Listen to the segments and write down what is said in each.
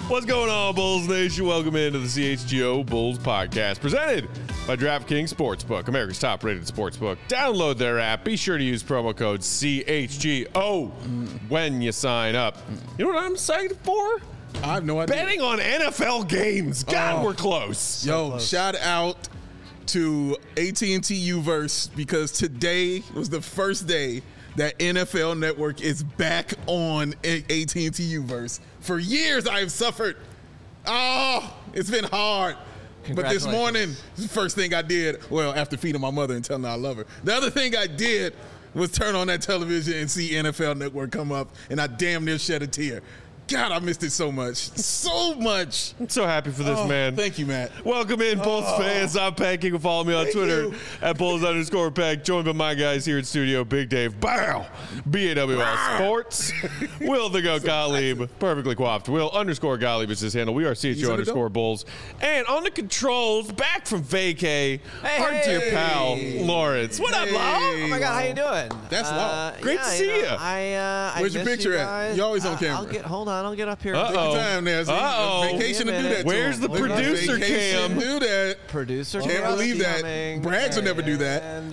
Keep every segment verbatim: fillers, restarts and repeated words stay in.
What's going on, Bulls Nation? Welcome into the C H G O Bulls Podcast, presented by DraftKings Sportsbook, America's top-rated sportsbook. Download their app. Be sure to use promo code C H G O when you sign up. You know what I'm excited for? I have no idea. Betting on N F L games. God, Oh. we're close. So Yo, close. shout out to A T and T U-verse because today was the first day that N F L Network is back on A T and T U-verse. For years, I have suffered. Oh, it's been hard. But this morning, the first thing I did, well, after feeding my mother and telling her I love her, the other thing I did was turn on that television and see N F L Network come up, and I damn near shed a tear. God, I missed it so much. So much. I'm so happy for this, Oh, man. Thank you, Matt. Welcome in, Bulls Oh. fans. I'm Pat King. Follow me on Thank Twitter you. at Bulls underscore Pack. Joined by my guys here in studio, Big Dave, Bow, B A W L Sports, Will the Go Gottlieb, perfectly coiffed. Will underscore Gottlieb is his handle. We are C H He's O on the underscore dope. Bulls. And on the controls, back from vacay, Hey, our dear hey. pal, Lawrence. What up, Law? Hey. Oh my God, how you doing? That's uh, Law. Great yeah, to see you. ya. Know, I, uh, I Where's your miss picture you at? guys. You're always on Uh, camera. I'll get. Hold on, I'll get up here. Uh-oh. Take your time there. See, Uh-oh. vacation Give to me do a that. minute. to Where's him. the Look at my producer vacation cam? Do that. Producer, Can't cam believe that. coming. Brags would never do that. And-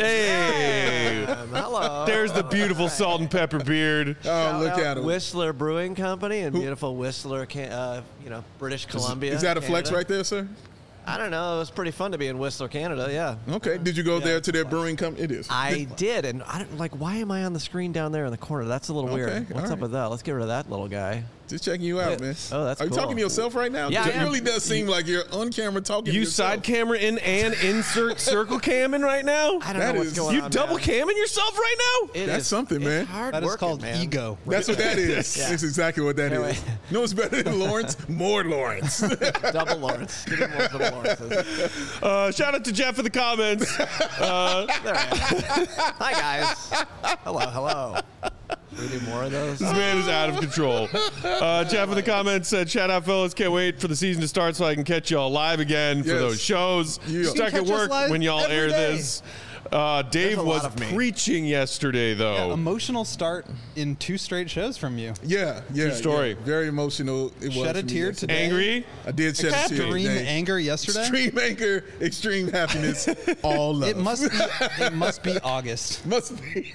Hey. Um, hello. There's the beautiful salt and pepper beard. Oh, Shout look out at him. Whistler Brewing Company in beautiful Whistler, Can- uh, you know, British Columbia. Is that a flex Canada. right there, sir? I don't know. It was pretty fun to be in Whistler, Canada. Yeah. Okay. Did you go Yeah, there it's to their fun. brewing company? It is. I did, and I don't like. Why am I on the screen down there in the corner? That's a little Okay, weird. What's all up right. with that? Let's get rid of that little guy. Just checking you out, Yeah. man. Oh, that's Are you cool. talking to yourself right now? Yeah, 'Cause I it am. really does seem like you're on camera talking to You yourself. side camera in and insert circle camming right now? I don't That know what's is- going You on. double man. camming yourself right now? It That's is- something, it's man. Hard That is working, called man. ego. That's what that is. Yeah. That's exactly what that is. Anyway. You know what's better than Lawrence? More Lawrence. Double Lawrence. Give me more double Lawrences. Uh, shout out to Jeff in the comments. Uh, There I am. Hi guys. Hello, hello. Should we do more of those? this man is out of control. Uh, Jeff in the comments said, shout out, fellas. Can't wait for the season to start so I can catch y'all live again for Yes. those shows. Yeah. Stuck You at can catch work us live when y'all every air day. this. Uh, Dave a was lot of me. preaching yesterday, though. Emotional start in two straight shows from you. yeah, yeah. True story. yeah. Very emotional. It was Shed a for me tear yesterday. today. Angry? I did shed a tear. Extreme today. anger yesterday. Extreme anger, extreme happiness, all love. It must be. It must be August. must be.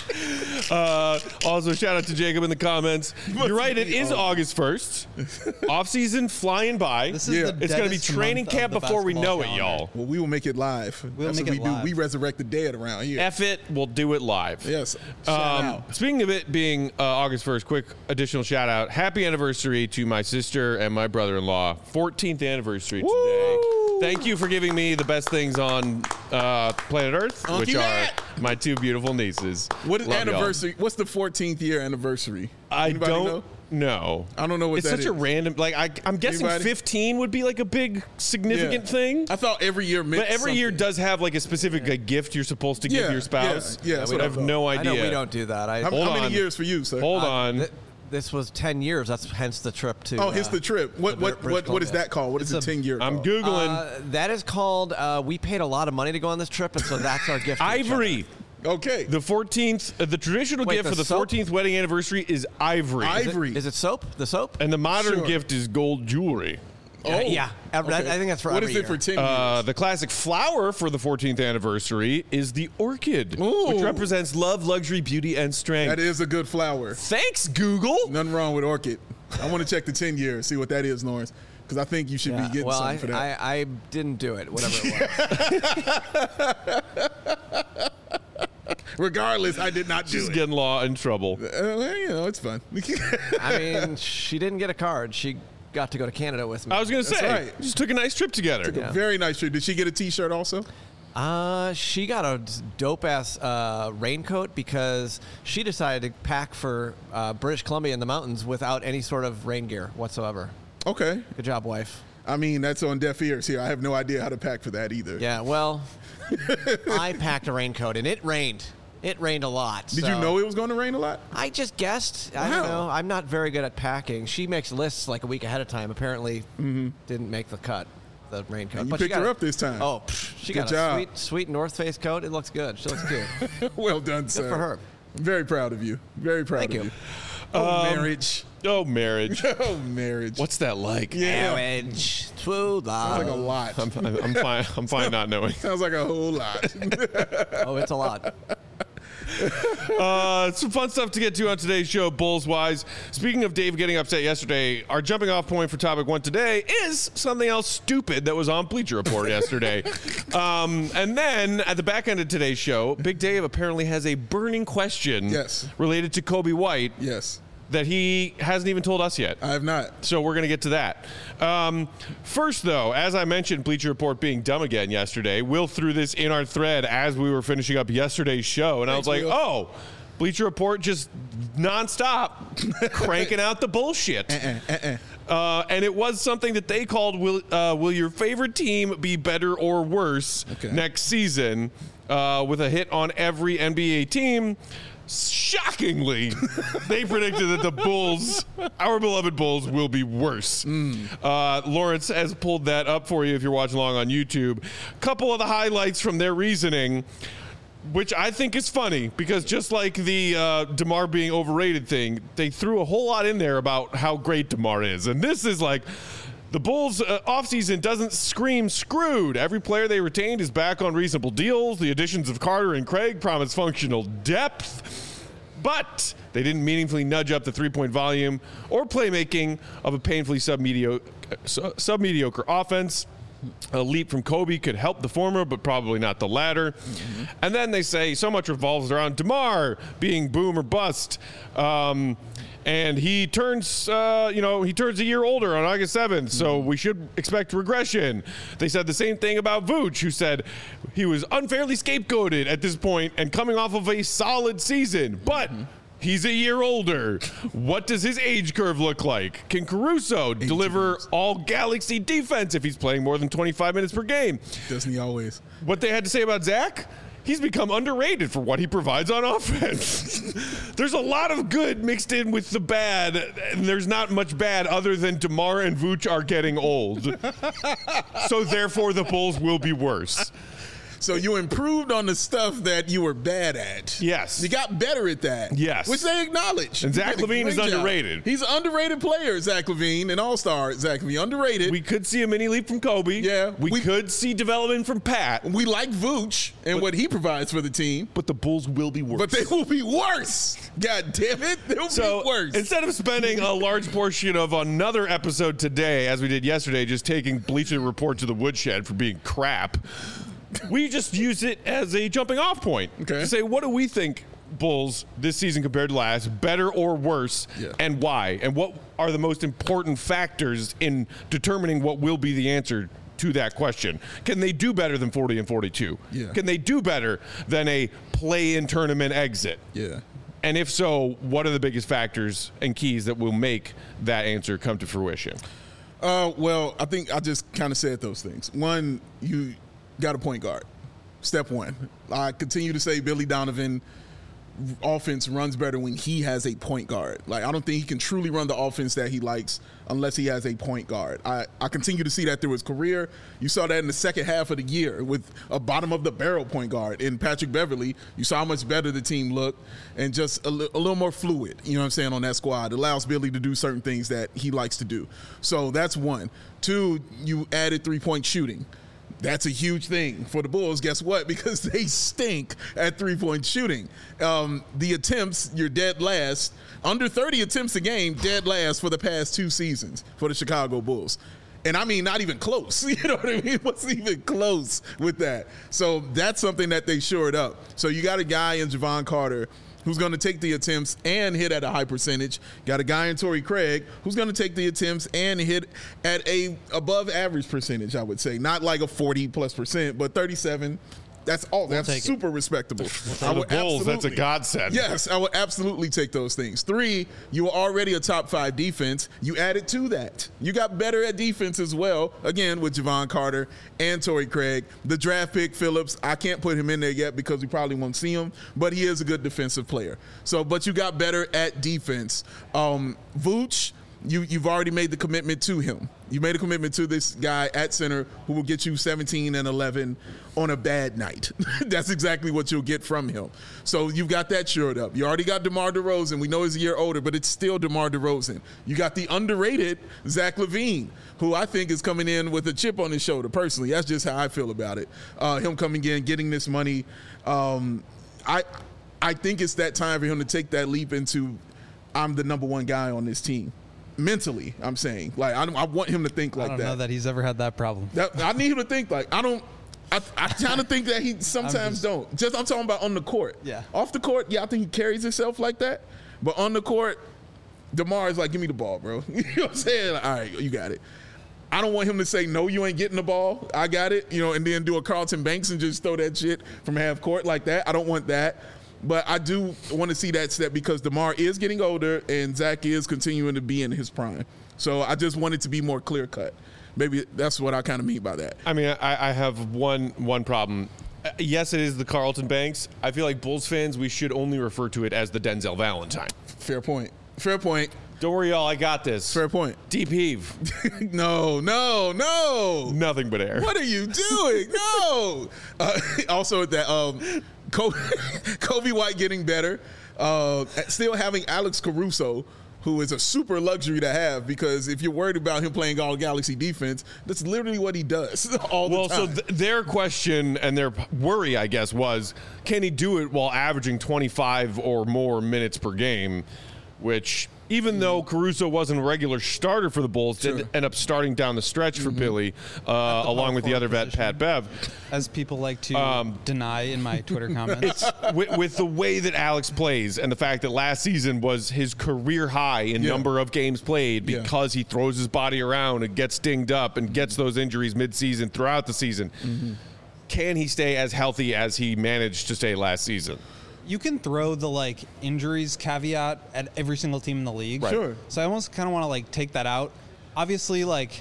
Uh, also, shout out to Jacob in the comments. Must You're right, it be is August first. Off season flying by. This is Yeah. the It's going to be deadest training month of camp the before we basketball know it, calendar. y'all. Well, we will make it live. We'll That's make what it we live. do. We resurrect the dead around here. F it, we'll do it live. Yes. Shout Um, out. speaking of it being uh, August first, quick additional shout out. Happy anniversary to my sister and my brother in law. fourteenth anniversary today. Woo! Thank you for giving me the best things on uh, planet Earth, Unky which are Matt. my two beautiful nieces. What is Love y'all. anniversary? What's the fourteenth year anniversary? I Anybody don't know? know. I don't know what it's that such a is. random, like, I, I'm guessing Anybody? fifteen would be like a big, significant Yeah. thing. I thought every year meant But every year something. does have like a specific like, gift you're supposed to give Yeah, your spouse. yeah, yeah, that's I what I have thought. no I idea. know we don't do that. I, How, Hold how many on. years for you, sir? Hold uh, on. th- this was ten years. That's hence the trip to. oh, here's uh, the trip. What to what British what what is Columbia. that called? What is It's the a- ten year? I'm called? Googling. Uh, that is called. Uh, we paid a lot of money to go on this trip, and so that's our gift. to each other. Ivory. Okay. The fourteenth, uh, the traditional Wait, gift the for the soap? fourteenth wedding anniversary is ivory. I- Is it- Ivory. Is it soap? The soap? and the modern Sure. gift is gold jewelry. Uh, yeah. Every- I- I think that's for What every is it year. for ten Uh, years? the classic flower for the fourteenth anniversary is the orchid, Ooh. which represents love, luxury, beauty, and strength. That is a good flower. Thanks, Google. Nothing wrong with orchid. I want to check the ten year, see what that is, Lawrence, because I think you should Yeah, be getting well, something I, for that. I, I didn't do it, whatever it was. Regardless, I did not do She's it. getting law in trouble. Uh, well, you know, it's fun. I mean, she didn't get a card. She got to go to Canada with me. I was going to That's say, right. just took a nice trip together. Yeah. Very nice trip. Did she get a T-shirt also? Uh, she got a dope ass uh, raincoat because she decided to pack for uh, British Columbia in the mountains without any sort of rain gear whatsoever. Okay. Good job, wife. I mean, that's on deaf ears here. I have no idea how to pack for that either. Yeah, well, I packed a raincoat and it rained. It rained a lot. Did so you know it was going to rain a lot? I just guessed. I Wow. don't know. I'm not very good at packing. She makes lists like a week ahead of time. Apparently, didn't make the cut. The raincoat. And you But she picked got her a- up this time. Oh, pff, she Good got job. a sweet, sweet North Face coat. It looks good. She looks cute. Well done, sir. Good for her. Very proud of you. Very proud Thank of you. you. Oh, Um, marriage. Oh, marriage. Oh, marriage. What's that like? Yeah. Marriage, true love. Sounds like a lot. I'm, I'm, I'm fine. I'm fine not knowing. Sounds like a whole lot. Oh, it's a lot. Uh, some fun stuff to get to on today's show, Bulls wise. Speaking of Dave getting upset yesterday, our jumping off point for topic one today is something else stupid that was on Bleacher Report yesterday. Um, and then at the back end of today's show, Big Dave apparently has a burning question Yes. related to Kobe White Yes. that he hasn't even told us yet. I have not. So we're going to get to that. Um, first, though, as I mentioned, Bleacher Report being dumb again yesterday, Will threw this in our thread as we were finishing up yesterday's show. And I was Thanks, like, Will. oh, Bleacher Report just nonstop cranking out the bullshit. Uh-uh, uh-uh. Uh, and it was something that they called, will, uh, will your favorite team be better or worse Okay. next season, uh, with a hit on every N B A team. Shockingly, they predicted that the Bulls, our beloved Bulls, will be worse. Mm. Uh, Lawrence has pulled that up for you if you're watching along on YouTube. Couple of the highlights from their reasoning, which I think is funny because just like the uh, DeMar being overrated thing, they threw a whole lot in there about how great DeMar is. And this is like, the Bulls' uh, offseason doesn't scream screwed. Every player they retained is back on reasonable deals. The additions of Carter and Craig promise functional depth. But they didn't meaningfully nudge up the three-point volume or playmaking of a painfully sub-mediocre, sub-mediocre offense. A leap from Kobe could help the former, but probably not the latter. Mm-hmm. And then they say so much revolves around DeMar being boom or bust. Um, and he turns, uh, you know, he turns a year older on August seventh, so we should expect regression. They said the same thing about Vooch, who said he was unfairly scapegoated at this point and coming off of a solid season. But he's a year older. What does his age curve look like? Can Caruso deliver all Galaxy defense if he's playing more than twenty-five minutes per game? Doesn't he always? What they had to say about Zach? He's become underrated for what he provides on offense. There's a lot of good mixed in with the bad, and there's not much bad other than DeMar and Vooch are getting old. So therefore, the Bulls will be worse. So you improved on the stuff that you were bad at. Yes. You got better at that. Yes. Which they acknowledge. And Zach You did a LaVine is great job. underrated. He's an underrated player, Zach LaVine, an all-star Zach LaVine. Underrated. We could see a mini leap from Kobe. Yeah, We, we- could see development from Pat. We like Vooch and what he provides for the team, But the Bulls will be worse. but they will be worse. God damn it. They'll So be worse. instead of spending a large portion of another episode today, as we did yesterday, just taking Bleacher Report to the woodshed for being crap, we just use it as a jumping off point Okay. to say, what do we think Bulls this season compared to last, better or worse, Yeah. and why? And what are the most important factors in determining what will be the answer to that question? Can they do better than forty and forty-two? Yeah. Can they do better than a play-in tournament exit? yeah. And if so, what are the biggest factors and keys that will make that answer come to fruition? Uh, well, I think I just kind of said those things. One, you got a point guard. Step one. I continue to say Billy Donovan offense runs better when he has a point guard. Like, I don't think he can truly run the offense that he likes unless he has a point guard. I, I continue to see that through his career. You saw that in the second half of the year with a bottom of the barrel point guard in Patrick Beverly. You saw how much better the team looked and just a, li- a little more fluid, you know what I'm saying, on that squad. It allows Billy to do certain things that he likes to do. So that's one. Two, you added three-point shooting. That's a huge thing for the Bulls. Guess what? Because they stink at three-point shooting. Um, the attempts, you're dead last. Under thirty attempts a game, dead last for the past two seasons for the Chicago Bulls. And I mean, not even close. You know what I mean? It wasn't even close with that. So that's something that they shored up. So you got a guy in Javon Carter who's going to take the attempts and hit at a high percentage. Got a guy in Torrey Craig who's going to take the attempts and hit at a above average percentage, I would say. Not like a forty plus percent, but thirty-seven. That's all. That's take it. super respectable. For the Bulls, that's a godsend. Yes, I would absolutely take those things. Three, you were already a top five defense. You added to that. You got better at defense as well, again, with Javon Carter and Torrey Craig. The draft pick, Phillips, I can't put him in there yet because we probably won't see him, but he is a good defensive player. So, but you got better at defense. Um, Vooch, you, you've already made the commitment to him. You made a commitment to this guy at center who will get you seventeen and eleven on a bad night. That's exactly what you'll get from him. So you've got that shored up. You already got DeMar DeRozan. We know he's a year older, but it's still DeMar DeRozan. You got the underrated Zach LaVine, who I think is coming in with a chip on his shoulder, personally. That's just how I feel about it. Uh, him coming in, getting this money. Um, I, I think it's that time for him to take that leap into I'm the number one guy on this team. Mentally, I'm saying. Like, I, I want him to think like I don't that. know that he's ever had that problem. That, I need him to think like, I don't, I, I kind of think that he sometimes just, don't. Just, I'm talking about on the court. Yeah. Off the court, yeah, I think he carries himself like that. But on the court, DeMar is like, give me the ball, bro. You know what I'm saying? Like, all right, you got it. I don't want him to say, no, you ain't getting the ball. I got it. You know, and then do a Carlton Banks and just throw that shit from half court like that. I don't want that. But I do want to see that step because DeMar is getting older and Zach is continuing to be in his prime. So I just want it to be more clear cut. Maybe that's what I kind of mean by that. I mean, I, I have one one problem. Uh, yes, it is the Carlton Banks. I feel like Bulls fans, we should only refer to it as the Denzel Valentine. Fair point. Fair point. Don't worry, y'all. I got this. Fair point. Deep heave. no, no, no. Nothing but air. What are you doing? No. Uh, also, that um, Kobe, Kobe White getting better. Uh, still having Alex Caruso, who is a super luxury to have because if you're worried about him playing all Galaxy defense, that's literally what he does all the well, time. Well, so th- their question and their worry, I guess, was can he do it while averaging twenty-five or more minutes per game, which even though Caruso wasn't a regular starter for the Bulls, Sure. did end up starting down the stretch for Mm-hmm. Billy, uh, the along power with the forward other vet, position. Pat Bev. As people like to Um, deny in my Twitter comments. with, with the way that Alex plays and the fact that last season was his career high in Yeah. number of games played Yeah. because he throws his body around and gets dinged up and gets those injuries midseason throughout the season. Mm-hmm. Can he stay as healthy as he managed to stay last season? You can throw the like injuries caveat at every single team in the league. Right. Sure. So I almost kind of want to like take that out. Obviously, like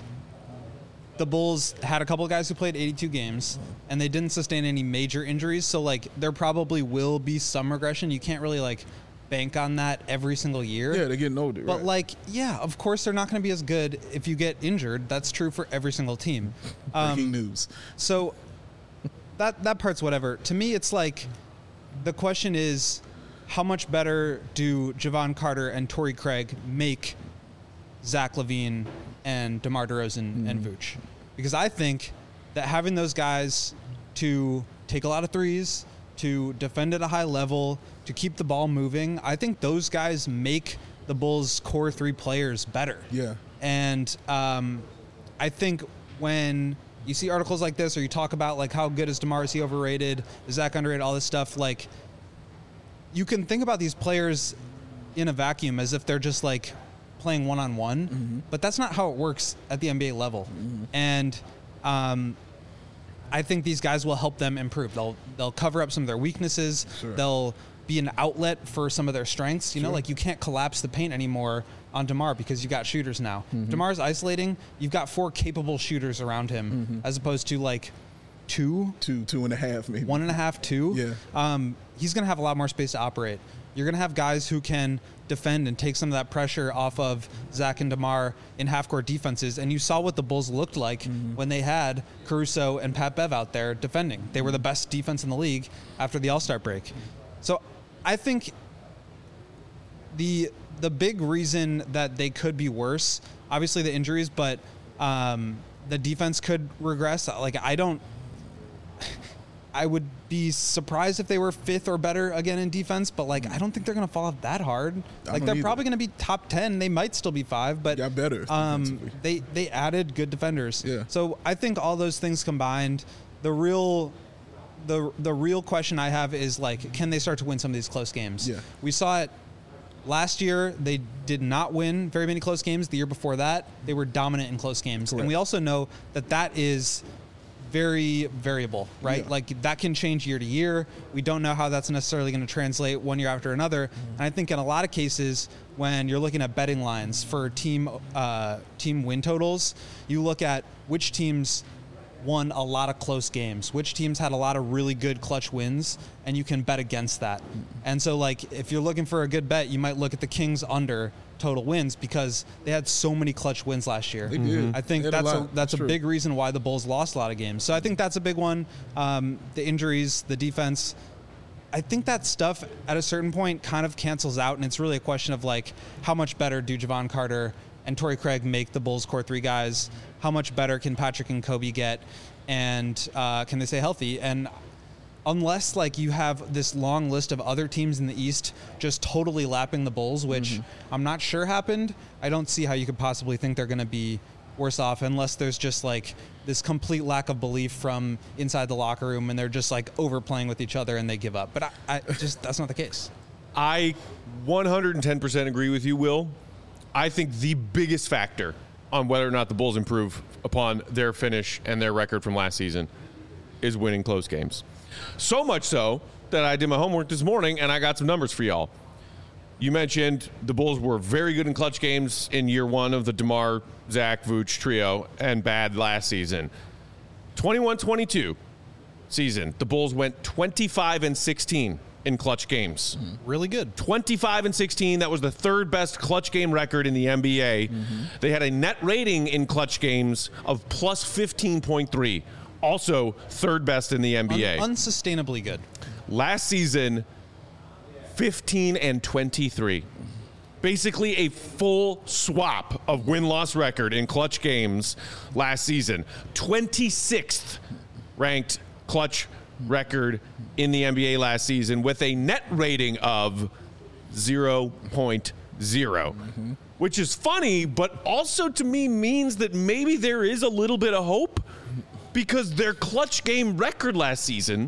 the Bulls had a couple of guys who played eighty-two games and they didn't sustain any major injuries. So like there probably will be some regression. You can't really like bank on that every single year. Yeah, they're getting older. But right. like, yeah, of course they're not going to be as good if you get injured. That's true for every single team. breaking Um, news. so that that part's whatever. To me, it's like the question is, how much better do Javon Carter and Torrey Craig make Zach LaVine and DeMar DeRozan Mm-hmm. and Vooch? Because I think that having those guys to take a lot of threes, to defend at a high level, to keep the ball moving, I think those guys make the Bulls' core three players better. Yeah. And um, I think when you see articles like this or you talk about like how good is DeMar, is he overrated, is Zach underrated, all this stuff, like you can think about these players in a vacuum as if they're just like playing one-on-one, Mm-hmm. but that's not how it works at the N B A level. And um, I think these guys will help them improve. They'll they'll cover up some of their weaknesses. Sure. They'll be an outlet for some of their strengths. You know, Sure. like you can't collapse the paint anymore on DeMar because you've got shooters now. Mm-hmm. DeMar's isolating. You've got four capable shooters around him Mm-hmm. as opposed to like two, Two, two and a half, maybe. one and a half, two. Yeah. Um, he's going to have a lot more space to operate. You're going to have guys who can defend and take some of that pressure off of Zach and DeMar in half-court defenses. And you saw what the Bulls looked like Mm-hmm. when they had Caruso and Pat Bev out there defending. They were the best defense in the league after the All-Star break. So I think the the big reason that they could be worse, obviously the injuries, but um, the defense could regress. Like I don't. I would be surprised if they were fifth or better again in defense, but like I don't think they're going to fall off that hard. Like don't they're either. probably going to be top ten. They might still be five, but Got better Um, defensively. they they added good defenders. Yeah. So I think all those things combined, the real. The, the real question I have is like, can they start to win some of these close games? Yeah. We saw it last year. They did not win very many close games. The year before that, they were dominant in close games. Correct. And we also know that that is very variable, right? Yeah. Like that can change year to year. We don't know how that's necessarily going to translate one year after another. And I think in a lot of cases, when you're looking at betting lines for team uh, team win totals, you look at which teams won a lot of close games, which teams had a lot of really good clutch wins, and you can bet against that. And so, like, if you're looking for a good bet, you might look at the Kings under total wins because they had so many clutch wins last year. They did. I think They had a that's a, lot. that's That's a true. big reason why the Bulls lost a lot of games. So I think that's a big one. Um, the injuries, the defense. I think that stuff at a certain point kind of cancels out, and it's really a question of, like, how much better do Javon Carter and Torrey Craig make the Bulls' core three guys? How much better can Patrick and Kobe get? And uh, can they stay healthy? And unless, like, you have this long list of other teams in the East just totally lapping the Bulls, which mm-hmm. I'm not sure happened, I don't see how you could possibly think they're going to be worse off unless there's just, like, this complete lack of belief from inside the locker room and they're just, like, overplaying with each other and they give up. But I, I just that's not the case. I one hundred ten percent agree with you, Will. I think the biggest factor on whether or not the Bulls improve upon their finish and their record from last season is winning close games. So much so that I did my homework this morning and I got some numbers for y'all. You mentioned the Bulls were very good in clutch games in year one of the DeMar, Zach, Vooch trio and bad last season. twenty-one twenty-two season, the Bulls went twenty-five and sixteen in clutch games. Mm-hmm. Really good. twenty-five and sixteen. That was the third best clutch game record in the N B A. Mm-hmm. They had a net rating in clutch games of plus fifteen point three. Also third best in the N B A. Un- unsustainably good. Last season, fifteen and twenty-three. Basically a full swap of win-loss record in clutch games last season. twenty-sixth ranked clutch record in the N B A last season with a net rating of zero point zero, mm-hmm. which is funny, but also to me means that maybe there is a little bit of hope because their clutch game record last season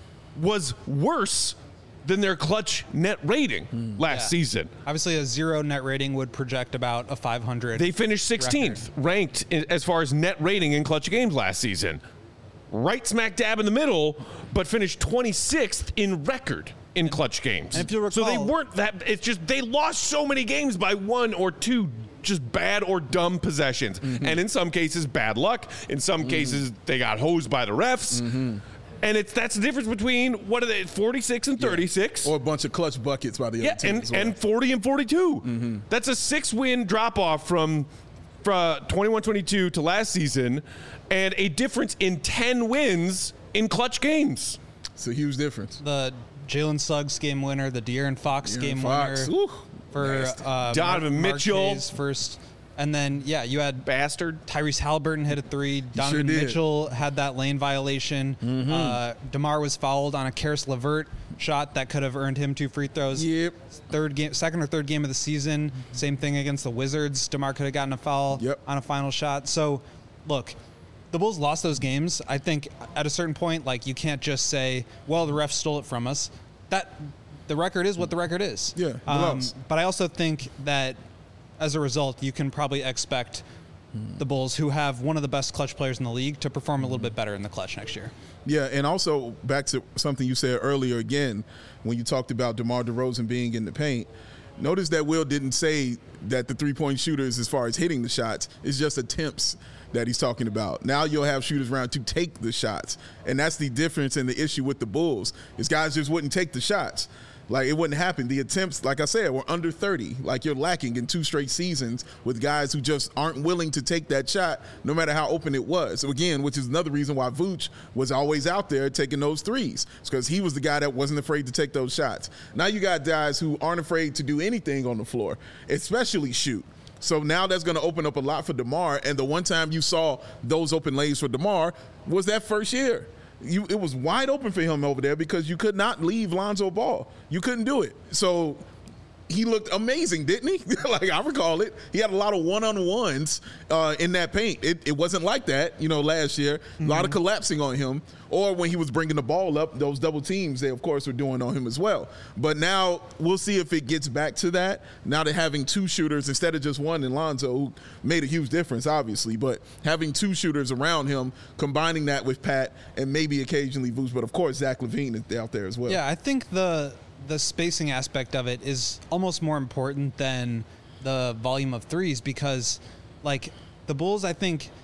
was worse than their clutch net rating mm, last yeah. season. Obviously, a zero net rating would project about a five hundred. They finished sixteenth record. Ranked in, as far as net rating in clutch games last season. Right smack dab in the middle, but finished twenty-sixth in record in clutch games. And if you recall, so they weren't that. It's just they lost so many games by one or two just bad or dumb possessions, mm-hmm. and in some cases bad luck. In some mm-hmm. cases they got hosed by the refs. Mm-hmm. And it's that's the difference between what are they, forty-six and thirty-six, yeah. or a bunch of clutch buckets by the yeah, other team, and, as well. and forty and forty-two. Mm-hmm. That's a six-win drop-off from, from twenty-one twenty-two to last season, and a difference in ten wins in clutch games. It's a huge difference. The Jalen Suggs game winner, the De'Aaron Fox De'Aaron game Fox. winner Ooh, for uh, Donovan Mark, Mitchell Marquez first. And then, yeah, you had Bastard. Tyrese Halliburton hit a three. Donovan sure Mitchell had that lane violation. Mm-hmm. Uh, DeMar was fouled on a Karis LeVert shot that could have earned him two free throws. Yep. Third game, second or third game of the season. Same thing against the Wizards. DeMar could have gotten a foul yep. on a final shot. So, look, the Bulls lost those games. I think at a certain point, like, you can't just say, well, the refs stole it from us. That the record is what the record is. Yeah. Um, but I also think that as a result, you can probably expect the Bulls, who have one of the best clutch players in the league, to perform a little bit better in the clutch next year. Yeah, and also back to something you said earlier again, when you talked about DeMar DeRozan being in the paint, notice that Will didn't say that the three-point shooters, as far as hitting the shots, is just attempts that he's talking about. Now you'll have shooters around to take the shots, and that's the difference and the issue with the Bulls, is guys just wouldn't take the shots. Like, it wouldn't happen. The attempts, like I said, were under thirty. Like, you're lacking in two straight seasons with guys who just aren't willing to take that shot, no matter how open it was. So, again, which is another reason why Vooch was always out there taking those threes. It's because he was the guy that wasn't afraid to take those shots. Now you got guys who aren't afraid to do anything on the floor, especially shoot. So now that's going to open up a lot for DeMar. And the one time you saw those open lanes for DeMar was that first year. You, it was wide open for him over there because you could not leave Lonzo Ball. You couldn't do it. So he looked amazing, didn't he? Like, I recall it. He had a lot of one-on-ones uh, in that paint. It, it wasn't like that, you know, last year. Mm-hmm. A lot of collapsing on him. Or when he was bringing the ball up, those double teams, they, of course, were doing on him as well. But now we'll see if it gets back to that. Now they're having two shooters instead of just one in Lonzo, who made a huge difference, obviously. But having two shooters around him, combining that with Pat and maybe occasionally Vooch. But, of course, Zach LaVine is out there as well. Yeah, I think the the spacing aspect of it is almost more important than the volume of threes because, like, the Bulls, I think,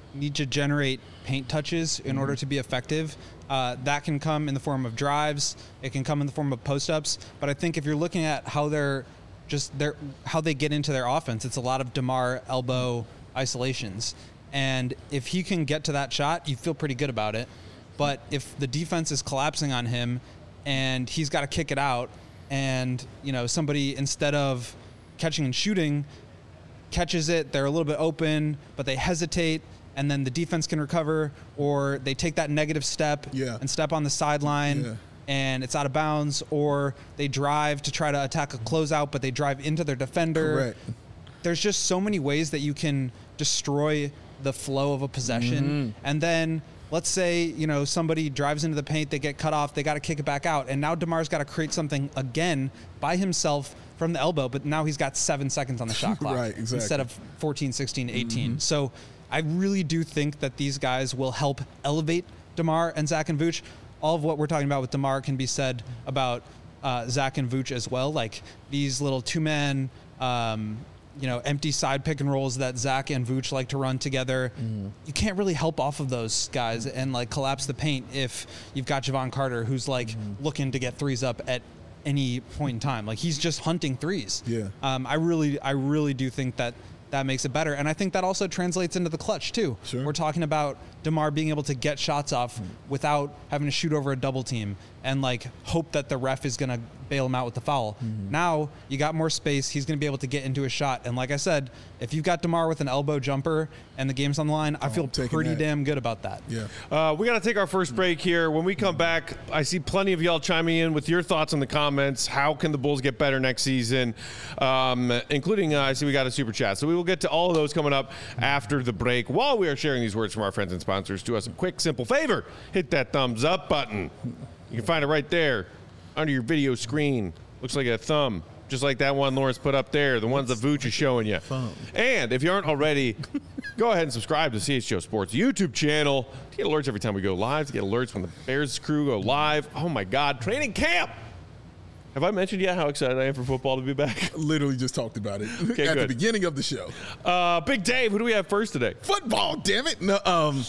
need to generate paint touches in mm-hmm. order to be effective. Uh, that can come in the form of drives. It can come in the form of post-ups. But I think if you're looking at how they're just their how they get into their offense, it's a lot of DeMar elbow isolations. And if he can get to that shot, you feel pretty good about it. But if the defense is collapsing on him and he's got to kick it out, and you know somebody, instead of catching and shooting, catches it, they're a little bit open, but they hesitate, and then the defense can recover, or they take that negative step yeah. and step on the sideline, yeah. and it's out of bounds, or they drive to try to attack a closeout, but they drive into their defender. Correct. There's just so many ways that you can destroy the flow of a possession, mm-hmm. and then let's say, you know, somebody drives into the paint, they get cut off, they got to kick it back out, and now DeMar's got to create something again by himself from the elbow, but now he's got seven seconds on the shot clock right, exactly. instead of fourteen, sixteen, eighteen. Mm-hmm. So I really do think that these guys will help elevate DeMar and Zach and Vooch. All of what we're talking about with DeMar can be said about uh, Zach and Vooch as well. Like these little two-man um, you know, empty side pick and rolls that Zach and Vooch like to run together. Mm. You can't really help off of those guys and like collapse the paint if you've got Javon Carter, who's like mm. looking to get threes up at any point in time. Like he's just hunting threes. Yeah. Um, I really, I really do think that that makes it better. And I think that also translates into the clutch too. Sure. We're talking about DeMar being able to get shots off mm. without having to shoot over a double team and like hope that the ref is going to bail him out with the foul. Mm-hmm. Now you got more space. He's going to be able to get into a shot. And like I said, if you've got DeMar with an elbow jumper and the game's on the line, I oh, feel pretty that. damn good about that. Yeah. Uh, we got to take our first break here. When we come back, I see plenty of y'all chiming in with your thoughts in the comments. How can the Bulls get better next season? Um, including, uh, I see we got a super chat. So we will get to all of those coming up after the break. While we are sharing these words from our friends and sponsors, do us a quick, simple favor. Hit that thumbs up button. You can find it right there under your video screen. Looks like a thumb, just like that one Lawrence put up there, the ones that Vooch is showing you. And if you aren't already, go ahead and subscribe to C H G O Sports YouTube channel to get alerts every time we go live, to get alerts when the Bears crew go live. Oh, my God, training camp. Have I mentioned yet how excited I am for football to be back? Literally just talked about it okay, at good. the beginning of the show. Uh, Big Dave, who do we have first today? Football, damn it. No, um,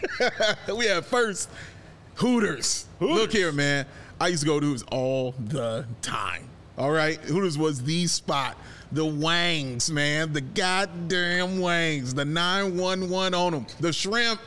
we have first Hooters. Hooters. Look here, man. I used to go to Hooters all the time. All right? Hooters was the spot. The wangs, man. The goddamn wangs. The nine one one on them. The shrimp.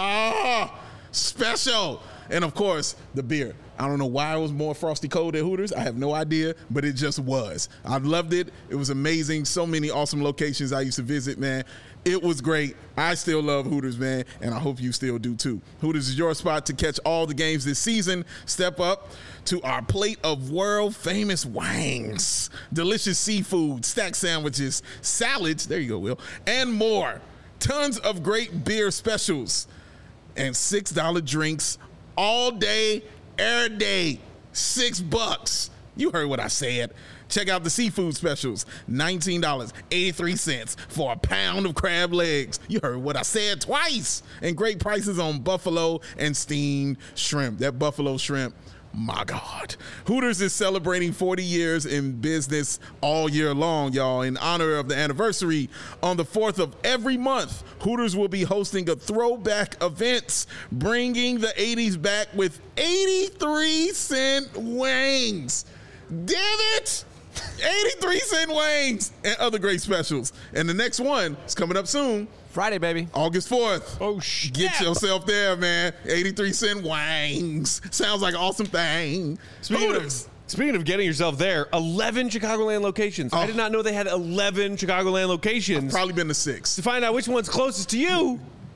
Ah, special. And, of course, the beer. I don't know why it was more frosty cold at Hooters. I have no idea, but it just was. I loved it. It was amazing. So many awesome locations I used to visit, man. It was great. I still love Hooters, man, and I hope you still do too. Hooters is your spot to catch all the games this season. Step up to our plate of world-famous wangs, delicious seafood, stack sandwiches, salads, there you go, Will, and more. Tons of great beer specials and six dollar drinks all day, every day. Six bucks. You heard what I said. Check out the seafood specials. nineteen dollars and eighty-three cents for a pound of crab legs. You heard what I said twice. And great prices on buffalo and steamed shrimp. That buffalo shrimp, my God. Hooters is celebrating forty years in business all year long, y'all. In honor of the anniversary, on the fourth of every month, Hooters will be hosting a throwback event, bringing the eighties back with eighty-three cent wings. Damn it! eighty-three cent wings and other great specials. And the next one is coming up soon. Friday, baby. August fourth. Oh, shit. Get yourself there, man. eighty-three cent wings. Sounds like an awesome thing. Speaking of, speaking of getting yourself there, eleven Chicagoland locations. Oh. I did not know they had eleven Chicagoland locations. I've probably been to six. To find out which one's closest to you,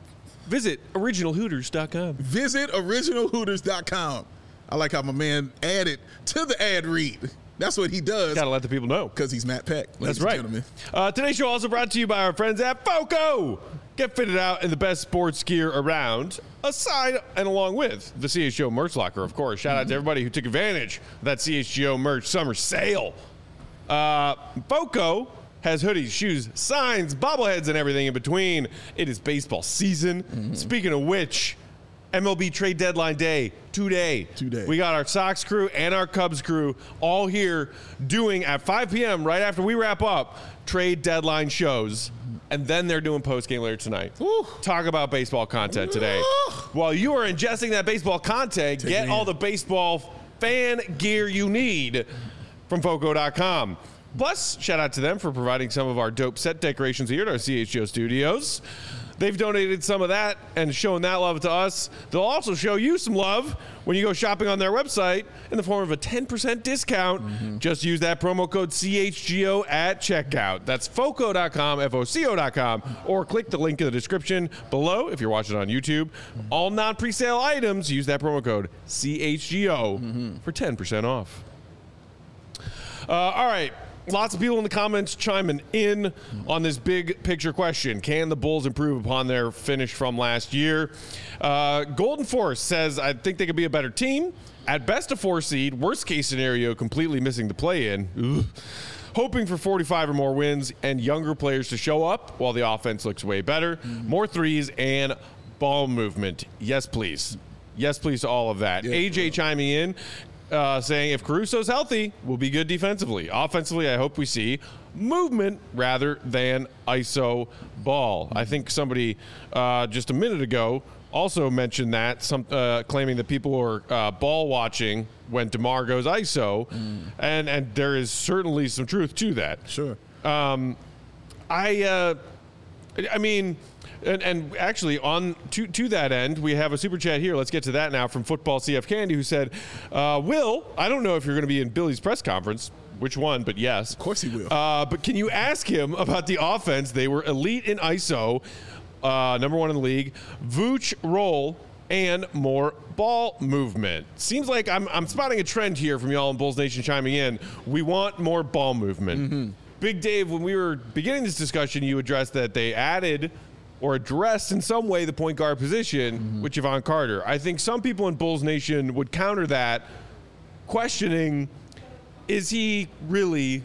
visit original hooters dot com. Visit original hooters dot com. I like how my man added to the ad read. That's what he does. Gotta let the people know. Because he's Matt Peck. That's right. Uh, today's show also brought to you by our friends at FOCO. Get fitted out in the best sports gear around, aside and along with the C H G O merch locker, of course. Shout mm-hmm. out to everybody who took advantage of that C H G O merch summer sale. Uh, FOCO has hoodies, shoes, signs, bobbleheads, and everything in between. It is baseball season. Mm-hmm. Speaking of which, M L B trade deadline day today. Today. We got our Sox crew and our Cubs crew all here doing at five p.m. right after we wrap up trade deadline shows. and then they're doing post game later tonight. Woo. Talk about baseball content today. While you are ingesting that baseball content, Take get it all in. the baseball fan gear you need from Foco dot com. Plus, shout out to them for providing some of our dope set decorations here at our C H G O studios. They've donated some of that and shown that love to us. They'll also show you some love when you go shopping on their website in the form of a ten percent discount. Mm-hmm. Just use that promo code C H G O at checkout. That's Foco dot com, F O C O dot com, or click the link in the description below if you're watching on YouTube. All non-presale items, use that promo code C H G O mm-hmm. for ten percent off. Uh, all right. Lots of people in the comments chiming in on this big picture question. Can the Bulls improve upon their finish from last year? Uh, Golden Force says, I think they could be a better team. At best, a four seed. Worst case scenario, completely missing the play-in. Ugh. Hoping for forty-five or more wins and younger players to show up while the offense looks way better. Mm-hmm. More threes and ball movement. Yes, please. Yes, please to all of that. Yeah, A J chiming in. Uh, saying if Caruso's healthy, we'll be good defensively. Offensively, I hope we see movement rather than I S O ball. I think somebody uh, just a minute ago also mentioned that, some uh, claiming that people are uh, ball watching when DeMar goes I S O, mm. and and there is certainly some truth to that. Sure. Um, I uh, I mean. And, and actually, on to, to that end, we have a super chat here. Let's get to that now from Football C F Candy, who said, uh, Will, I don't know if you're going to be in Billy's press conference, which one, but yes. Of course he will. Uh, but can you ask him about the offense? They were elite in I S O, uh, number one in the league, Vooch roll, and more ball movement. Seems like I'm, I'm spotting a trend here from y'all in Bulls Nation chiming in. We want more ball movement. Mm-hmm. Big Dave, when we were beginning this discussion, you addressed that they added or addressed in some way the point guard position mm-hmm. with Javon Carter. I think some people in Bulls Nation would counter that, questioning, is he really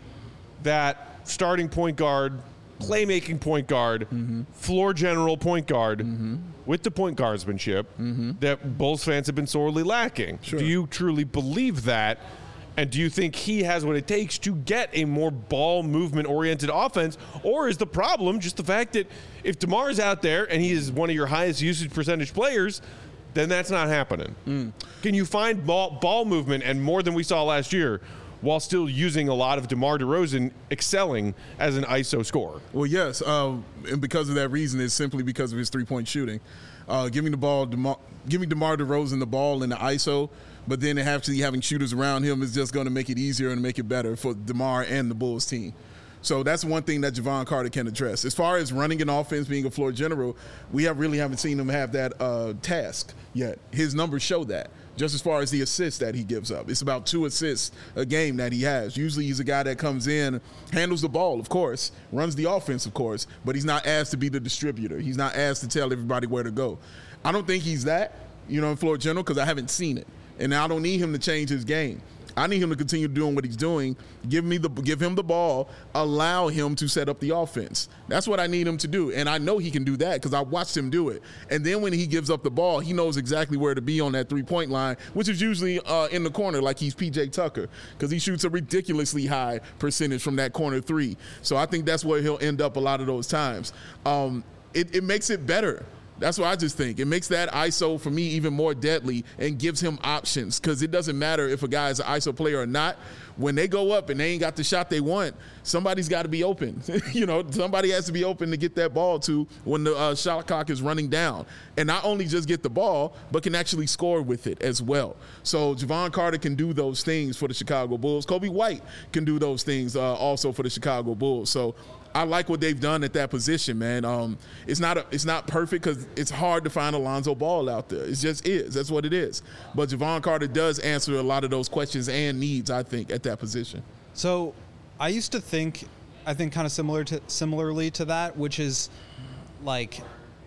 that starting point guard, playmaking point guard, mm-hmm. floor general point guard mm-hmm. with the point guardsmanship mm-hmm. that Bulls fans have been sorely lacking? Sure. Do you truly believe that? And do you think he has what it takes to get a more ball movement-oriented offense? Or is the problem just the fact that if DeMar is out there and he is one of your highest usage percentage players, then that's not happening? Mm. Can you find ball, ball movement and more than we saw last year while still using a lot of DeMar DeRozan excelling as an I S O scorer? Well, yes. Uh, and because of that reason, it's simply because of his three-point shooting. Uh, giving the ball, DeMar, giving DeMar DeRozan the ball in the I S O, but then actually having shooters around him is just going to make it easier and make it better for DeMar and the Bulls team. So that's one thing that Javon Carter can address. As far as running an offense, being a floor general, we have really haven't seen him have that uh, task yet. His numbers show that. Just as far as the assists that he gives up. It's about two assists a game that he has. Usually he's a guy that comes in, handles the ball, of course, runs the offense, of course, but he's not asked to be the distributor. He's not asked to tell everybody where to go. I don't think he's that, you know, in floor general, because I haven't seen it. And I don't need him to change his game. I need him to continue doing what he's doing. Give me the, give him the ball. Allow him to set up the offense. That's what I need him to do. And I know he can do that because I watched him do it. And then when he gives up the ball, he knows exactly where to be on that three-point line, which is usually uh, in the corner like he's P J Tucker, because he shoots a ridiculously high percentage from that corner three. So I think that's where he'll end up a lot of those times. Um, it, it makes it better. That's what I just think. It makes that I S O, for me, even more deadly and gives him options, because it doesn't matter if a guy is an I S O player or not. When they go up and they ain't got the shot they want, somebody's got to be open. You know, somebody has to be open to get that ball to when the uh, shot clock is running down. And not only just get the ball, but can actually score with it as well. So Javon Carter can do those things for the Chicago Bulls. Kobe White can do those things uh, also for the Chicago Bulls. So I like what they've done at that position, man. Um, it's not a, it's not perfect because it's hard to find Alonzo Ball out there. It just is. That's what it is. But Javon Carter does answer a lot of those questions and needs, I think, at that position. So I used to think, I think kind of similar to similarly to that, which is like,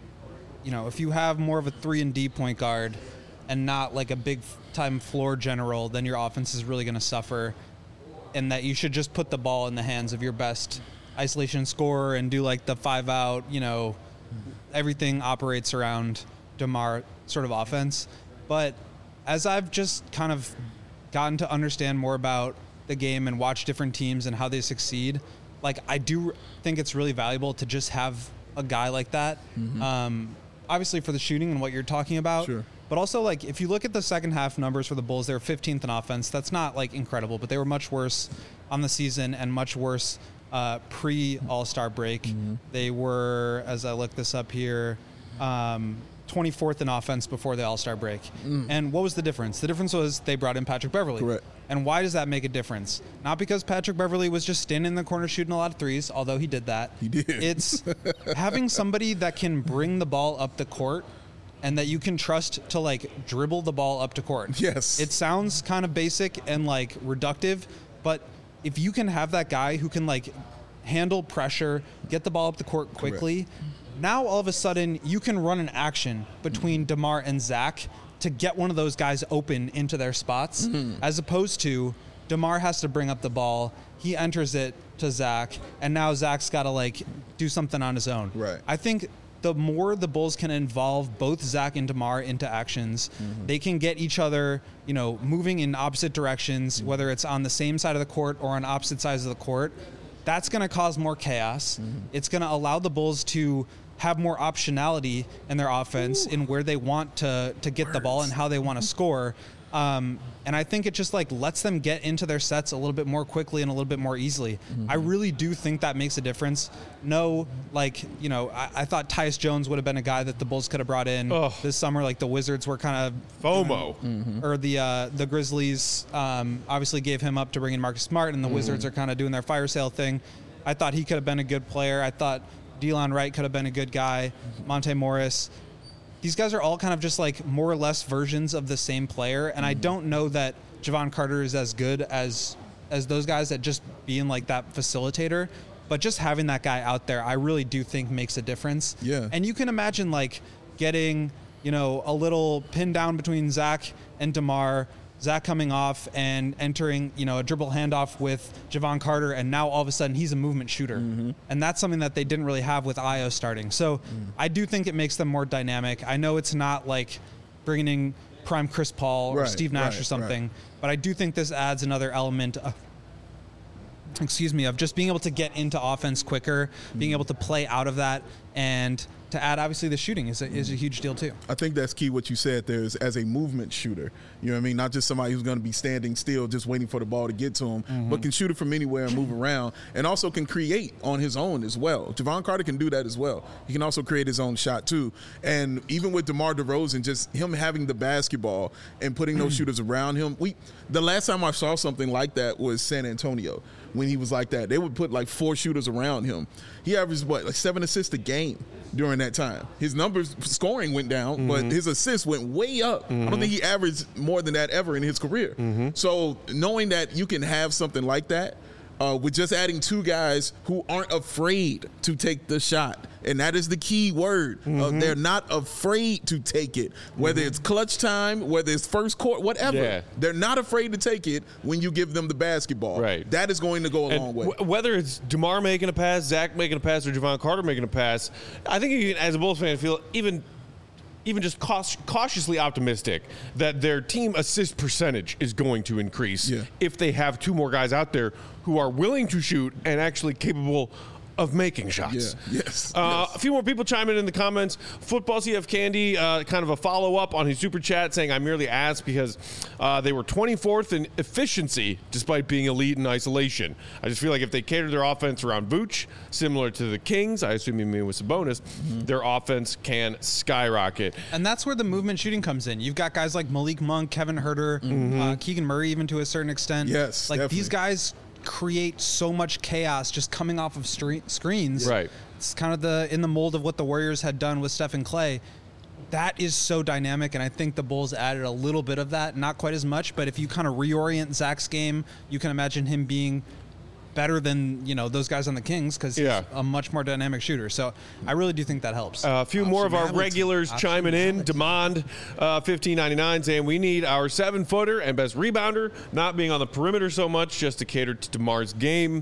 you know, if you have more of a three and D point guard and not like a big time floor general, then your offense is really going to suffer, and that you should just put the ball in the hands of your best isolation scorer and do like the five out, you know, everything operates around DeMar sort of offense. But as I've just kind of gotten to understand more about the game and watch different teams and how they succeed, like I do think it's really valuable to just have a guy like that. Mm-hmm. Um, obviously for the shooting and what you're talking about. Sure. But also, like, if you look at the second half numbers for the Bulls, they were fifteenth in offense. That's not, like, incredible, but they were much worse on the season and much worse uh, pre-All-Star break. Mm-hmm. They were, as I look this up here, um, twenty-fourth in offense before the All-Star break. Mm. And what was the difference? The difference was they brought in Patrick Beverley. Correct. And why does that make a difference? Not because Patrick Beverley was just standing in the corner shooting a lot of threes, although he did that. He did. It's having somebody that can bring the ball up the court and that you can trust to, like, dribble the ball up to court. Yes. It sounds kind of basic and, like, reductive, but if you can have that guy who can, like, handle pressure, get the ball up the court quickly, correct. Now all of a sudden you can run an action between DeMar and Zach to get one of those guys open into their spots, mm-hmm. as opposed to DeMar has to bring up the ball, he enters it to Zach, and now Zach's got to, like, do something on his own. Right. I think the more the Bulls can involve both Zach and DeMar into actions, mm-hmm. they can get each other, you know, moving in opposite directions, mm-hmm. whether it's on the same side of the court or on opposite sides of the court. That's going to cause more chaos. Mm-hmm. It's going to allow the Bulls to have more optionality in their offense Ooh. In where they want to to get Words. The ball and how they want to score. Um, and I think it just, like, lets them get into their sets a little bit more quickly and a little bit more easily. Mm-hmm. I really do think that makes a difference. No, like, you know, I, I thought Tyus Jones would have been a guy that the Bulls could have brought in Ugh. This summer. Like, the Wizards were kind of FOMO, mm-hmm. or the uh, the Grizzlies um, obviously gave him up to bring in Marcus Smart, and the mm-hmm. Wizards are kind of doing their fire sale thing. I thought he could have been a good player. I thought Delon Wright could have been a good guy. Monte Morris. These guys are all kind of just, like, more or less versions of the same player, and mm-hmm. I don't know that Javon Carter is as good as as those guys at just being, like, that facilitator. But just having that guy out there, I really do think makes a difference. Yeah. And you can imagine, like, getting, you know, a little pin down between Zach and DeMar, Zach coming off and entering, you know, a dribble handoff with Javon Carter, and now all of a sudden he's a movement shooter. Mm-hmm. And that's something that they didn't really have with Ayo starting. So mm. I do think it makes them more dynamic. I know it's not like bringing in prime Chris Paul right, or Steve Nash right, or something, right. but I do think this adds another element of, excuse me, of just being able to get into offense quicker, mm. being able to play out of that, and to add, obviously, the shooting is a, is a huge deal, too. I think that's key what you said there is as a movement shooter. You know what I mean? Not just somebody who's going to be standing still just waiting for the ball to get to him, mm-hmm. but can shoot it from anywhere and move around, and also can create on his own as well. Javon Carter can do that as well. He can also create his own shot, too. And even with DeMar DeRozan, just him having the basketball and putting those shooters around him. We the last time I saw something like that was San Antonio when he was like that. They would put, like, four shooters around him. He averaged, what, like seven assists a game during that time. His numbers, scoring went down, mm-hmm. but his assists went way up. Mm-hmm. I don't think he averaged more than that ever in his career. Mm-hmm. So knowing that you can have something like that, uh, with just adding two guys who aren't afraid to take the shot, and that is the key word. Mm-hmm. Uh, they're not afraid to take it, whether mm-hmm. it's clutch time, whether it's first court, whatever. Yeah. They're not afraid to take it when you give them the basketball. Right. That is going to go a and long way. W- whether it's DeMar making a pass, Zach making a pass, or Javon Carter making a pass, I think you can, as a Bulls fan, feel even even just cautiously optimistic that their team assist percentage is going to increase yeah. if they have two more guys out there who are willing to shoot and actually capable of making shots. Yeah. Yes. Uh, yes. A few more people chime in in the comments. Football C F Candy, uh, kind of a follow-up on his super chat saying, I merely asked because uh, they were twenty-fourth in efficiency despite being elite in isolation. I just feel like if they cater their offense around Vooch, similar to the Kings, I assume you mean with Sabonis, mm-hmm. their offense can skyrocket. And that's where the movement shooting comes in. You've got guys like Malik Monk, Kevin Huerter, mm-hmm. uh, Keegan Murray even to a certain extent. Yes, Like definitely. These guys create so much chaos just coming off of stre- screens. Right. It's kind of the in the mold of what the Warriors had done with Steph and Clay. That is so dynamic, and I think the Bulls added a little bit of that, not quite as much, but if you kind of reorient Zach's game, you can imagine him being better than, you know, those guys on the Kings because yeah. he's a much more dynamic shooter. So I really do think that helps. Uh, a few more of our regulars chiming in. Demond, uh, fifteen ninety-nine, saying we need our seven-footer and best rebounder, not being on the perimeter so much, just to cater to DeMar's game.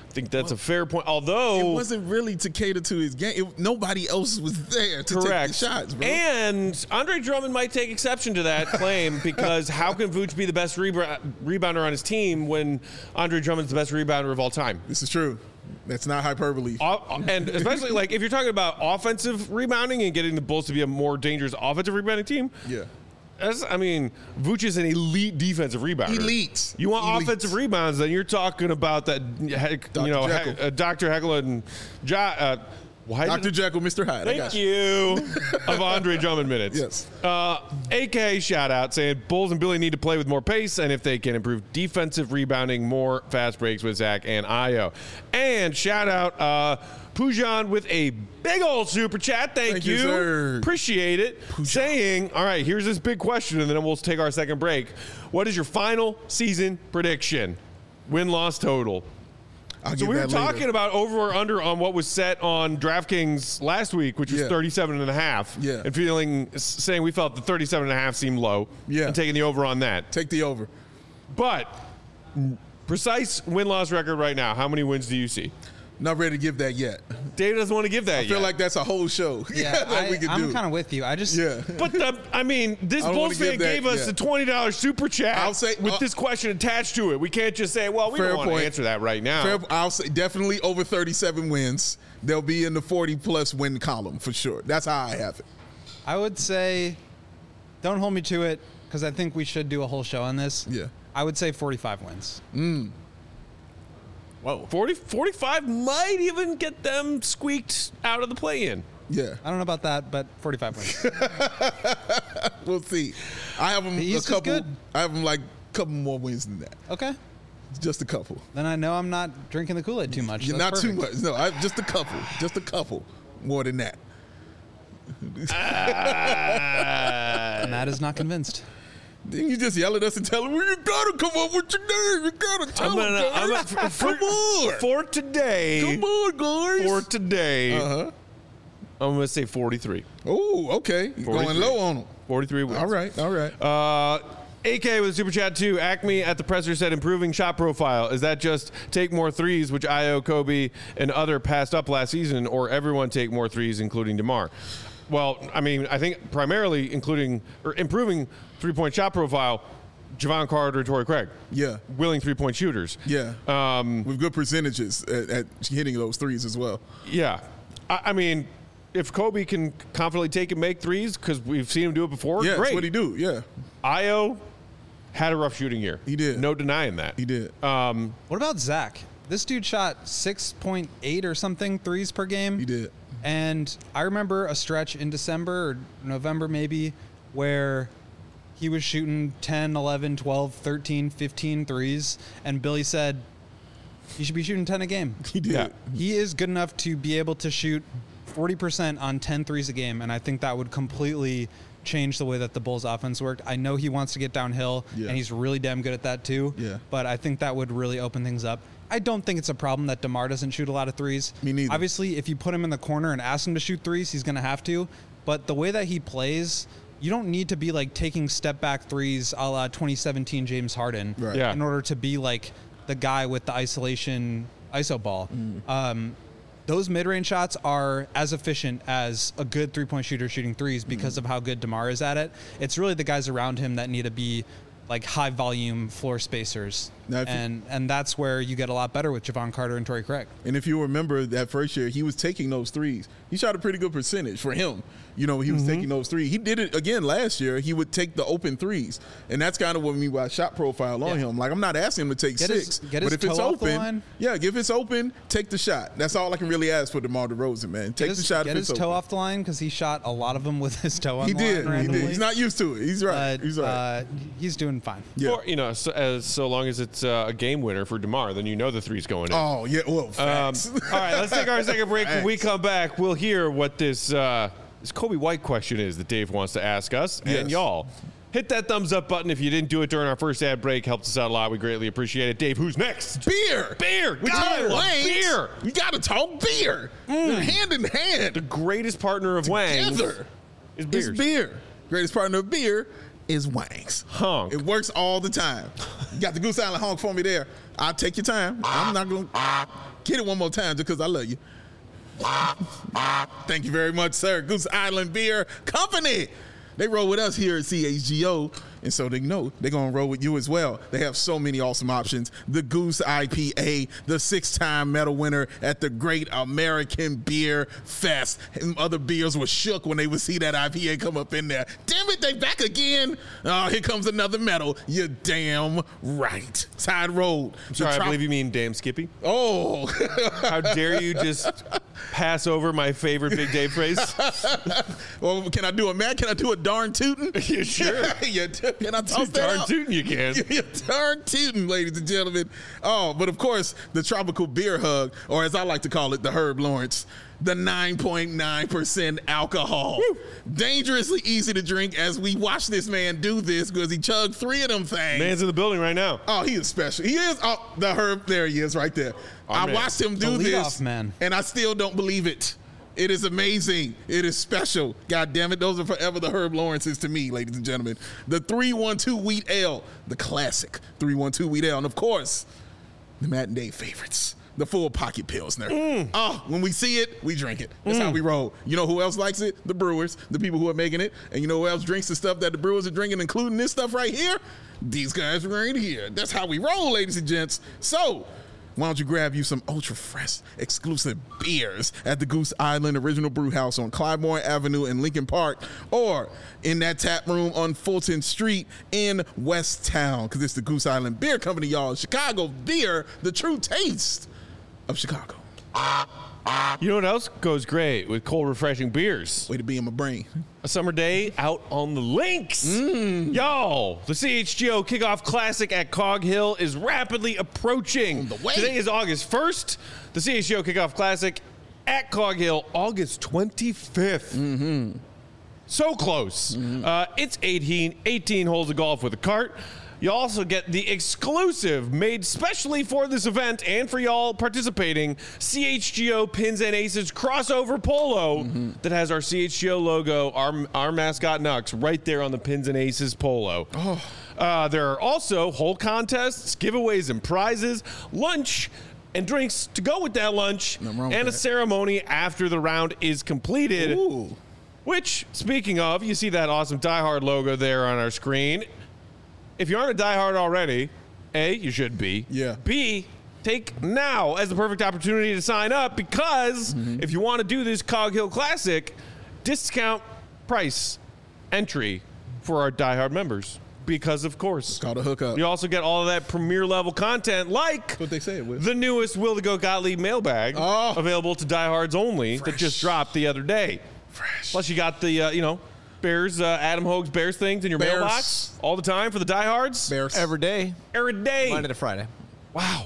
think that's a fair point. Although It wasn't really to cater to his game. It, nobody else was there to correct take the shots, bro. And Andre Drummond might take exception to that claim because how can Vooch be the best reba- rebounder on his team when Andre Drummond's the best rebounder of all time? This is true. That's not hyperbole. O- and especially like if you're talking about offensive rebounding and getting the Bulls to be a more dangerous offensive rebounding team. Yeah. That's, I mean, Vooch is an elite defensive rebounder. Elite. You want Elite. offensive rebounds, then you're talking about that, heck, you know, Jekyll. he- uh, Doctor Heckle and jo- uh, why did- Doctor Jekyll, Mister Hyde. I Thank got you. Of Andre Drummond minutes. Yes. Uh, A K shout out saying Bulls and Billy need to play with more pace, and if they can improve defensive rebounding, more fast breaks with Zach and Io. And shout out uh, Pujan with a big old super chat. Thank, Thank you. you, sir. Appreciate it. Saying, all right, here's this big question, and then we'll take our second break. What is your final season prediction? Win-loss total. I'll So get we were that talking later. about over or under on what was set on DraftKings last week, which was Yeah. thirty-seven and a half. Yeah. And feeling, saying we felt the thirty-seven and a half seemed low. Yeah. And taking the over on that. Take the over. But precise win-loss record right now, how many wins do you see? Not ready to give that yet. Dave doesn't want to give that I feel yet. like that's a whole show. Yeah, that I, we could I'm do. kind of with you. I just Yeah. But the, I mean, this I don't Bulls wanna fan give that gave us yet. the twenty dollars super chat I'll say- with uh, this question attached to it. We can't just say, well, we Fair don't want to point. answer that right now. Fair, I'll say definitely over thirty-seven wins. They'll be in the forty plus win column for sure. That's how I have it. I would say, don't hold me to it because I think we should do a whole show on this. Yeah. I would say forty-five wins. Whoa. forty, forty-five might even get them squeaked out of the play-in. Yeah, I don't know about that, but forty-five wins. we'll see. I have them The a East is couple. good. I have them like a couple more wins than that. Okay. Just a couple. Then I know I'm not drinking the Kool-Aid too much. You're That's not too perfect. much. No, I, just a couple. Just a couple more than that. Matt is not convinced. Then you just yell at us and tell them, well, you gotta come up with your name. You gotta tell I'm gonna, them. I'm guys. gonna- for, come on. for today, come on, guys. for today, uh-huh. I'm going to say forty-three. Oh, okay. You're going forty-three. low on them. forty-three wins. All right, all right. Uh, A K with a super chat too. Acme at the presser said improving shot profile. Is that just take more threes, which Io, Kobe, and other passed up last season, or everyone take more threes, including DeMar? Well, I mean, I think primarily including or improving three-point shot profile. Javon Carter, Torrey Craig. Yeah. Willing three-point shooters. Yeah. Um, With good percentages at, at hitting those threes as well. yeah. I, I mean, if Kobe can confidently take and make threes, because we've seen him do it before, Yeah, great. that's what he do. Yeah, Io had a rough shooting year. He did. No denying that. he did. Um, What about Zach? This dude shot six point eight or something threes per game. He did. And I remember a stretch in December or November maybe where he was shooting ten, eleven, twelve, thirteen, fifteen threes. And Billy said, he should be shooting ten a game. He did. Yeah. He is good enough to be able to shoot forty percent on ten threes a game. And I think that would completely change the way that the Bulls offense worked. I know he wants to get downhill, Yeah. and he's really damn good at that too. Yeah. But I think that would really open things up. I don't think it's a problem that DeMar doesn't shoot a lot of threes. Me neither. Obviously, if you put him in the corner and ask him to shoot threes, he's going to have to. But the way that he plays, you don't need to be like taking step back threes a la twenty seventeen James Harden Right. Yeah. in order to be like the guy with the isolation I S O ball. Um, those mid-range shots are as efficient as a good three-point shooter shooting threes because of how good DeMar is at it. It's really the guys around him that need to be like high-volume floor spacers. Now, if you- and and that's where you get a lot better with Javon Carter and Torrey Craig. And if you remember that first year, he was taking those threes. He shot a pretty good percentage for him. You know, he was Mm-hmm. taking those threes. He did it again last year. He would take the open threes. And that's kind of what I mean by shot profile on Yeah. him. Like, I'm not asking him to take Get his- six. get but his if it's toe off the open, line. yeah, if it's open, take the shot. That's all I can really ask for DeMar DeRozan, man. Get Take his, the shot get if his it's toe open. off the line because he shot a lot of them with his toe on He the did. line He randomly. did. He's not used to it. He's right. But He's right. uh, he's doing fine. yeah. Or, you know, so, as so long as it's uh, a game winner for DeMar, then you know the three's going in. Oh, yeah. Well, Um, facts. all right, let's take our second break. When we come back, we'll hear what this uh, this Kobe White question is that Dave wants to ask us Yes. and y'all. Hit that thumbs up button if you didn't do it during our first ad break. Helps us out a lot. We greatly appreciate it. Dave, who's next? Beer. Beer. We God, I talk love Wangs. beer. You got to talk beer. Hand in hand. The greatest partner of Wang's Together. is It's beers. beer. Greatest partner of beer is Wangs. Honk. It works all the time. You got the Goose Island honk for me there. I'll take your time. I'm not going to. Get it one more time just because I love you. Thank you very much, sir. Goose Island Beer Company. They roll with us here at C H G O, and so they know they're going to roll with you as well. They have so many awesome options. The Goose I P A, the six-time medal winner at the Great American Beer Fest. And other beers were shook when they would see that I P A come up in there. Damn it, they back again. Oh, here comes another medal. You're damn right. Side road. Sorry, I believe you mean damn Skippy. Oh. How dare you just pass over my favorite Big Dave phrase? Well, can I do a man? Can I do a darn tootin'? You sure? Yeah, can I toss that Darn out? tootin' you can. Yeah, darn tootin', ladies and gentlemen. Oh, but of course, the tropical beer hug, or as I like to call it, the Herb Lawrence, the nine point nine percent alcohol. Woo. Dangerously easy to drink as we watch this man do this because he chugged three of them things. Man's in the building right now. Oh, he is special. He is. Oh, the Herb, there he is right there. Our I man. watched him do The this, leadoff man. and I still don't believe it. It is amazing. It is special. God damn it. Those are forever the Herb Lawrences to me, ladies and gentlemen. The three one two Wheat Ale, the classic three one two Wheat Ale. And of course, the matinee favorites, the full pocket Pilsner. Mm. Oh, when we see it, we drink it. That's mm. how we roll. You know who else likes it? The brewers, the people who are making it. And you know who else drinks the stuff that the brewers are drinking, including this stuff right here? These guys right here. That's how we roll, ladies and gents. So, why don't you grab you some ultra fresh exclusive beers at the Goose Island Original Brew House on Clybourne Avenue in Lincoln Park, or in that tap room on Fulton Street in West Town, because it's the Goose Island Beer Company, y'all. Chicago beer, the true taste of Chicago. You know what else goes great with cold, refreshing beers? Way to be in my brain. A summer day out on the links. Mm. Y'all, the C H G O Kickoff Classic at Cog Hill is rapidly approaching. On the way. Today is August first. The C H G O Kickoff Classic at Cog Hill, August twenty-fifth. Mm-hmm. So close. Mm-hmm. Uh, it's eighteen, eighteen holes of golf with a cart. You also get the exclusive, made specially for this event and for y'all participating, C H G O Pins and Aces crossover polo mm-hmm. that has our C H G O logo, our, our mascot Nux, right there on the Pins and Aces polo. Oh. Uh, there are also hole contests, giveaways and prizes, lunch, and drinks to go with that lunch, and a that. ceremony after the round is completed. Ooh. Which, speaking of, you see that awesome Die Hard logo there on our screen. If you aren't a diehard already, A, you should be. Yeah. B, take now as the perfect opportunity to sign up because mm-hmm. if you want to do this Cog Hill Classic, discount price entry for our diehard members. Because, of course, it's called a hookup. You also get all of that premier level content like That's what they say it with. the newest Will to Go Gottlieb mailbag oh. available to diehards only Fresh. that just dropped the other day. Fresh. Plus, you got the, uh, you know, Bears, uh, Adam Hogue's Bears things in your Bears. mailbox all the time for the diehards. Bears. Every day. Every day. Monday to Friday. Wow.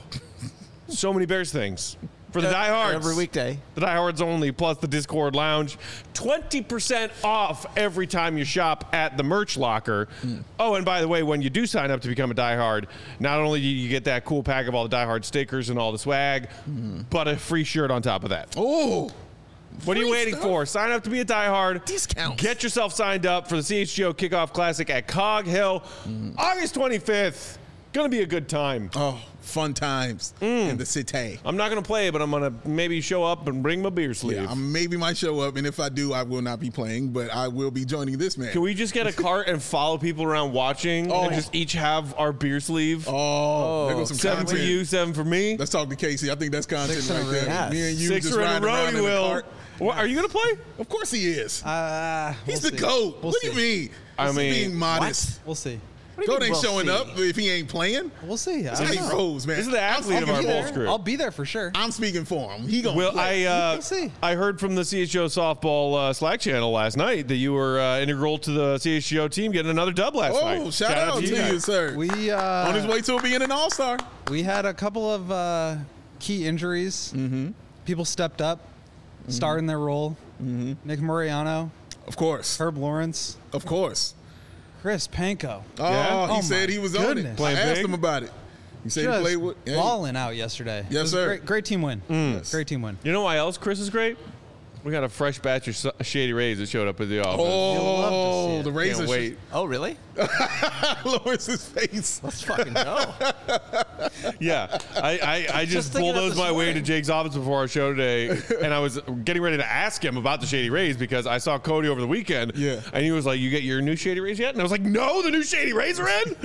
So many Bears things. For the diehards. Every weekday. The diehards only, plus the Discord Lounge. twenty percent off every time you shop at the merch locker. Mm. Oh, and by the way, when you do sign up to become a diehard, not only do you get that cool pack of all the diehard stickers and all the swag, mm. but a free shirt on top of that. Oh. What are you waiting stuff? for? Sign up to be a diehard. Discounts. Get yourself signed up for the C H G O Kickoff Classic at Cog Hill, mm. August twenty-fifth. Gonna be a good time. Oh, fun times mm. in the city. I'm not gonna play, but I'm gonna maybe show up and bring my beer sleeve. Yeah, I maybe might show up, and if I do, I will not be playing, but I will be joining this man. Can we just get a cart and follow people around watching oh. and just each have our beer sleeve? Oh, oh. There goes some seven content. for you, seven for me. Let's talk to Casey. I think that's content Six right there. yes. Me and you Six just in a riding row, around he in will. the cart. What, are you gonna play? Of course he is. Uh, He's we'll the see. GOAT. We'll what see. do you mean? I This mean, is being modest. We'll see. GOAT ain't we'll showing see? up if he ain't playing. We'll see. That's how he know. rolls, man. This is the athlete I'm of our speaking Bulls for crew. him. I'll be there for sure. I'm speaking for him. He gonna Well, play. I uh, We'll see. I heard from the C H G O softball uh, Slack channel last night that you were uh, integral to the C H G O team getting another dub last oh, night. shout, out, to you, guys. sir. We uh, On his way to being an all-star. we had a couple of uh, key injuries. Mm-hmm. People stepped up, mm-hmm. starred in their role. Mm-hmm. Nick Mariano, Of course. Herb Lawrence, Of course. Chris Panko. Oh, Yeah? he Oh, said my he was on it. goodness. I Playing asked big? him about it. He said Just he played with hey. balling out yesterday. Yes, It was a sir. Great, great team win. Mm. Yes. Great team win. You know why else Chris is great? We got a fresh batch of Shady Rays that showed up at the office. Oh, the Can't razor. wait. Oh, really? Lawrence's face. Let's fucking go. Yeah, I, I, I just, Just thinking of bulldozed this my way morning. to Jake's office before our show today, and I was getting ready to ask him about the Shady Rays because I saw Cody over the weekend. Yeah. And he was like, "You get your new Shady Rays yet?" And I was like, "No, the new Shady Rays are in."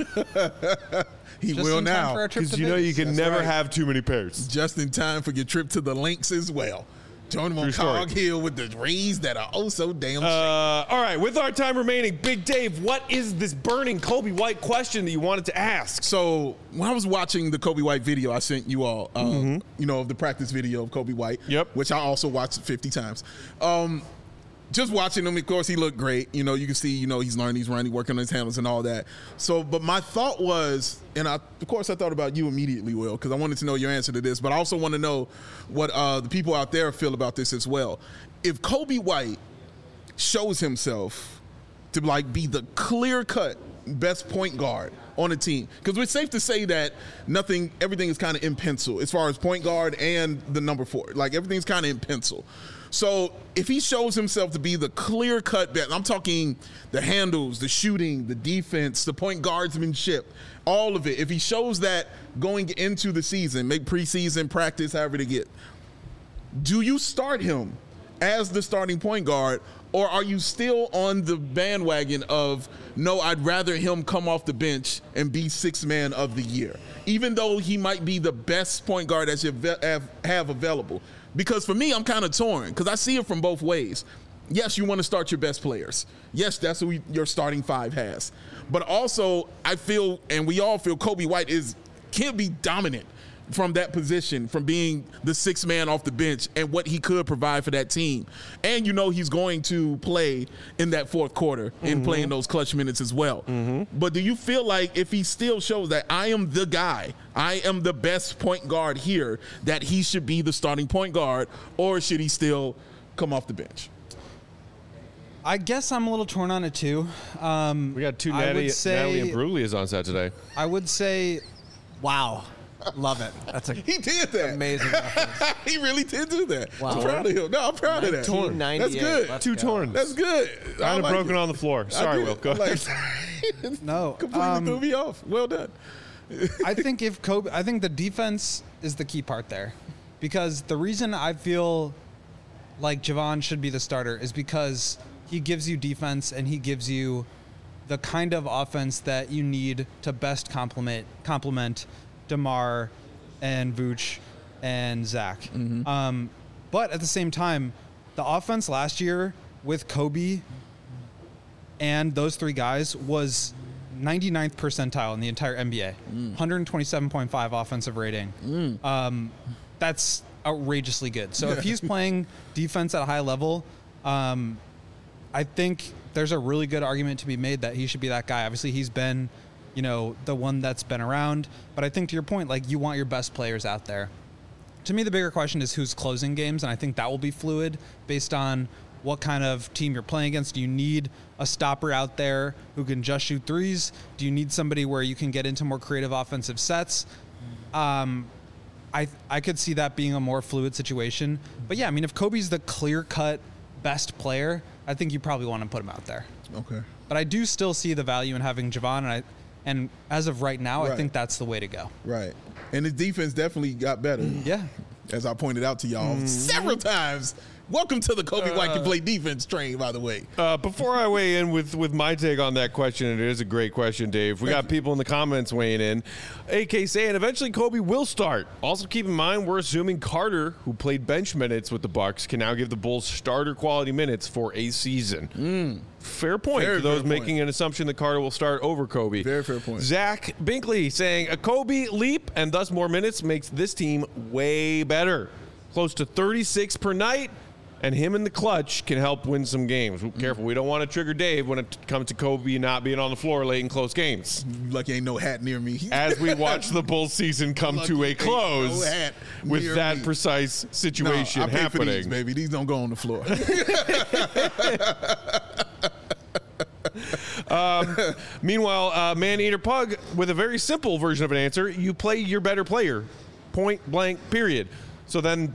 He Just will in time now. for our trip Because to you know you Vegas. can That's never right. have too many pairs. Just in time for your trip to the links as well. Join him on True story. Cog Hill with the Rays that are oh so damn Uh, shiny. all right, with our time remaining, Big Dave, what is this burning Kobe White question that you wanted to ask? So when I was watching the Kobe White video I sent you all, um, you know, of the practice video of Kobe White, Yep. which I also watched fifty times. Um, just watching him, of course, he looked great. You know, you can see, you know, he's learning, he's running, working on his handles and all that. So, but my thought was, and I, of course, I thought about you immediately, Will, because I wanted to know your answer to this, but I also want to know what uh, the people out there feel about this as well. If Kobe White shows himself to like be the clear-cut best point guard on a team, because it's safe to say that nothing, everything is kind of in pencil as far as point guard and the number four. Like everything's kind of in pencil. So if he shows himself to be the clear-cut best, I'm talking the handles, the shooting, the defense, the point guardsmanship, all of it. If he shows that going into the season, make preseason, practice, however to get, do you start him as the starting point guard, or are you still on the bandwagon of, no, I'd rather him come off the bench and be sixth man of the year, even though he might be the best point guard that you have, have available? Because for me, I'm kind of torn because I see it from both ways. Yes, you want to start your best players. Yes, that's who your starting five has. But also, I feel, and we all feel, Kobe White is can't be dominant from that position, from being the sixth man off the bench and what he could provide for that team. And you know he's going to play in that fourth quarter and Mm-hmm. playing those clutch minutes as well. Mm-hmm. But do you feel like if he still shows that I am the guy, I am the best point guard here, that he should be the starting point guard, or should he still come off the bench? I guess I'm a little torn on it too. Um, We got two I would Natty, say- Natalie and Bruglias on set today. I would say Wow. Love it. That's a He did that. amazing reference. He really did do that. Wow. I'm proud of him. No, I'm proud of that. nineteen ninety-eight. That's good. Let's Two go. torn. That's good. I Kind of like broken it. on the floor. I Sorry, did. Will. Go Like, ahead. no. completely um, threw me off. Well done. I think if Kobe, I think the defense is the key part there, because the reason I feel like Javon should be the starter is because he gives you defense and he gives you the kind of offense that you need to best complement complement DeMar and Vooch and Zach. Mm-hmm. Um, but at the same time, the offense last year with Kobe and those three guys was ninety-ninth percentile in the entire N B A. Mm. one twenty-seven point five offensive rating. Um, that's outrageously good. So if he's playing defense at a high level, um, I think there's a really good argument to be made that he should be that guy. Obviously, he's been, you know, the one that's been around. But I think to your point, like, you want your best players out there. To me, the bigger question is who's closing games, and I think that will be fluid based on what kind of team you're playing against. Do you need a stopper out there who can just shoot threes? Do you need somebody where you can get into more creative offensive sets? Um, I I could see that being a more fluid situation. But yeah, I mean, if Kobe's the clear-cut best player, I think you probably want to put him out there. Okay. But I do still see the value in having Javon, and I, and as of right now, I Right. think that's the way to go. Right. And his defense definitely got better. Yeah. As I pointed out to y'all Mm-hmm. several times. Welcome to the Kobe White can play defense train, by the way. Uh, before I weigh in with, with my take on that question, and it is a great question, Dave. We got people in the comments weighing in. A K saying eventually Kobe will start. Also, keep in mind we're assuming Carter, who played bench minutes with the Bucks, can now give the Bulls starter quality minutes for a season. Fair point Very for those fair point. making an assumption that Carter will start over Kobe. Very fair point. Zach Binkley saying a Kobe leap and thus more minutes makes this team way better. Close to thirty-six per night. And him in the clutch can help win some games. Careful, we don't want to trigger Dave when it comes to Kobe not being on the floor late in close games. Lucky ain't no hat near me. As we watch the Bulls season come Lucky to a ain't close no hat with near that me. precise No, situation I pay for these, happening. baby. These don't go on the floor. Meanwhile, uh, Man Eater Pug with a very simple version of an answer. You play your better player. Point blank, period. So then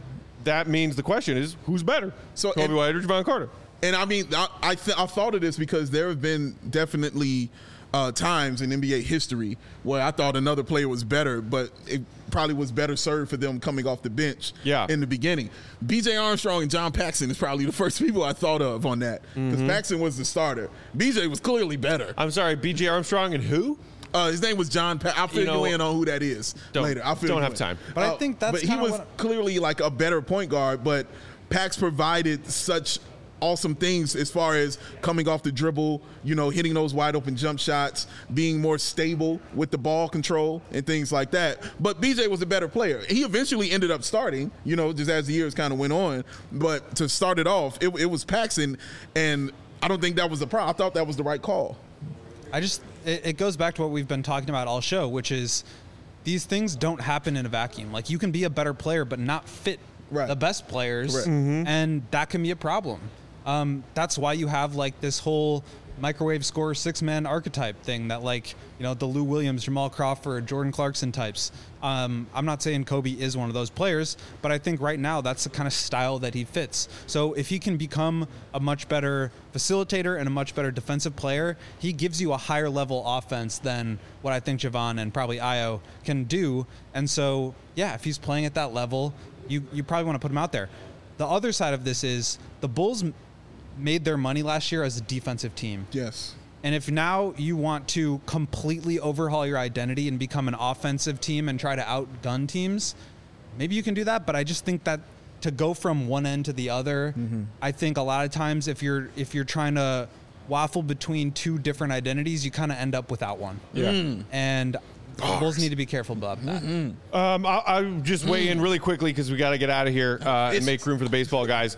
that means the question is, who's better? So, Kobe and- White or Javon Carter? And I mean, I I, th- I thought of this because there have been definitely uh, times in N B A history where I thought another player was better, but it probably was better served for them coming off the bench Yeah. in the beginning. B J Armstrong and John Paxson is probably the first people I thought of on that because Mm-hmm. Paxson was the starter. B J was clearly better. I'm sorry, B J Armstrong and who? Uh, his name was John. Pa- I'll fill you, You know, in on who that is don't- later. I'll fill don't you have in. time. But I Uh, think that's But he kinda was what- clearly like a better point guard. But Pax provided such awesome things as far as coming off the dribble, you know, hitting those wide open jump shots, being more stable with the ball control and things like that. But B J was a better player. He eventually ended up starting, you know, just as the years kind of went on. But to start it off, it, it was Paxson, and I don't think that was the problem. I thought that was the right call. I just it, it goes back to what we've been talking about all show, which is these things don't happen in a vacuum. Like you can be a better player but not fit Right. the best players, Correct. and that can be a problem. Um, that's why you have like this whole microwave scorer six man archetype thing that like you know the Lou Williams, Jamal Crawford, Jordan Clarkson types. Um, I'm not saying Kobe is one of those players, but I think right now that's the kind of style that he fits. So if he can become a much better facilitator and a much better defensive player, he gives you a higher level offense than what I think Javon and probably Ayo can do. And so yeah, if he's playing at that level, you you probably want to put him out there. The other side of this is the Bulls m- made their money last year as a defensive team. Yes. And if now you want to completely overhaul your identity and become an offensive team and try to outgun teams, maybe you can do that. But I just think that to go from one end to the other, Mm-hmm. I think a lot of times if you're if you're trying to waffle between two different identities, you kind of end up without one. Yeah. And the Bulls need to be careful about that. Mm-hmm. Um, I'll, I'll just weigh in really quickly because we got to get out of here uh, and make room for the baseball guys.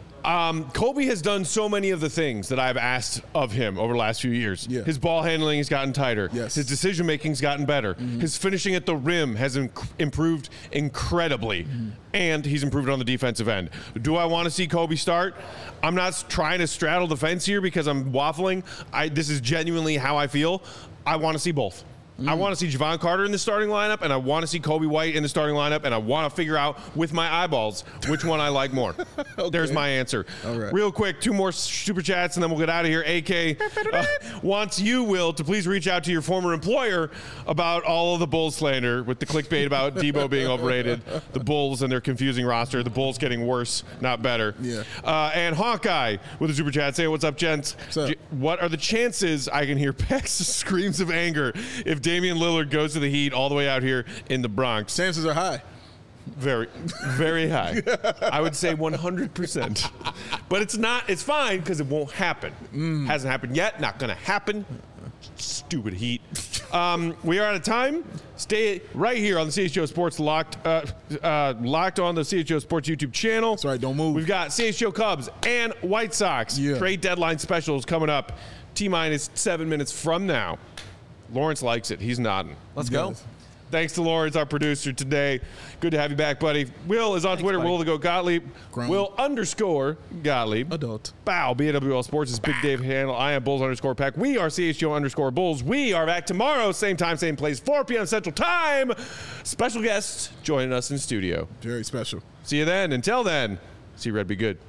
Um, Kobe has done so many of the things that I've asked of him over the last few years. Yeah. His ball handling has gotten tighter. Yes. His decision making's gotten better. His finishing at the rim has inc- improved incredibly, and he's improved on the defensive end. Do I want to see Kobe start? I'm not s- trying to straddle the fence here because I'm waffling. I, this is genuinely how I feel. I want to see both. I want to see Javon Carter in the starting lineup, and I want to see Kobe White in the starting lineup, and I want to figure out with my eyeballs which one I like more. There's my answer. All right. Real quick, two more super chats, and then we'll get out of here. A K uh, wants you, Will, to please reach out to your former employer about all of the Bulls slander with the clickbait about Debo being overrated, the Bulls and their confusing roster, the Bulls getting worse, not better. Yeah. Uh, and Hawkeye with a super chat saying, "What's up, gents? What's up? J- What are the chances I can hear Peck's screams of anger if Damian Lillard goes to the Heat all the way out here in the Bronx?" Chances are high. Very, very high. I would say one hundred percent. But it's not, it's fine because it won't happen. Hasn't happened yet, not going to happen. Stupid Heat. Um, we are out of time. Stay right here on the C H G O Sports Locked uh, uh, locked on the C H G O Sports YouTube channel. That's right, don't move. We've got C H G O Cubs and White Sox Yeah. trade deadline specials coming up. T-minus seven minutes from now. Lawrence likes it. He's nodding. Let's go. Yes. Thanks to Lawrence, our producer today. Good to have you back, buddy. Will is on Twitter. buddy. Will to go Gottlieb. Grown. Will underscore Gottlieb. Adult. Bow. B A W L Sports is Big Dave handle. I am Bulls underscore Pack. We are C H G O underscore Bulls. We are back tomorrow, same time, same place, four p.m. Central Time. Special guest joining us in studio. Very special. See you then. Until then, see Red be good.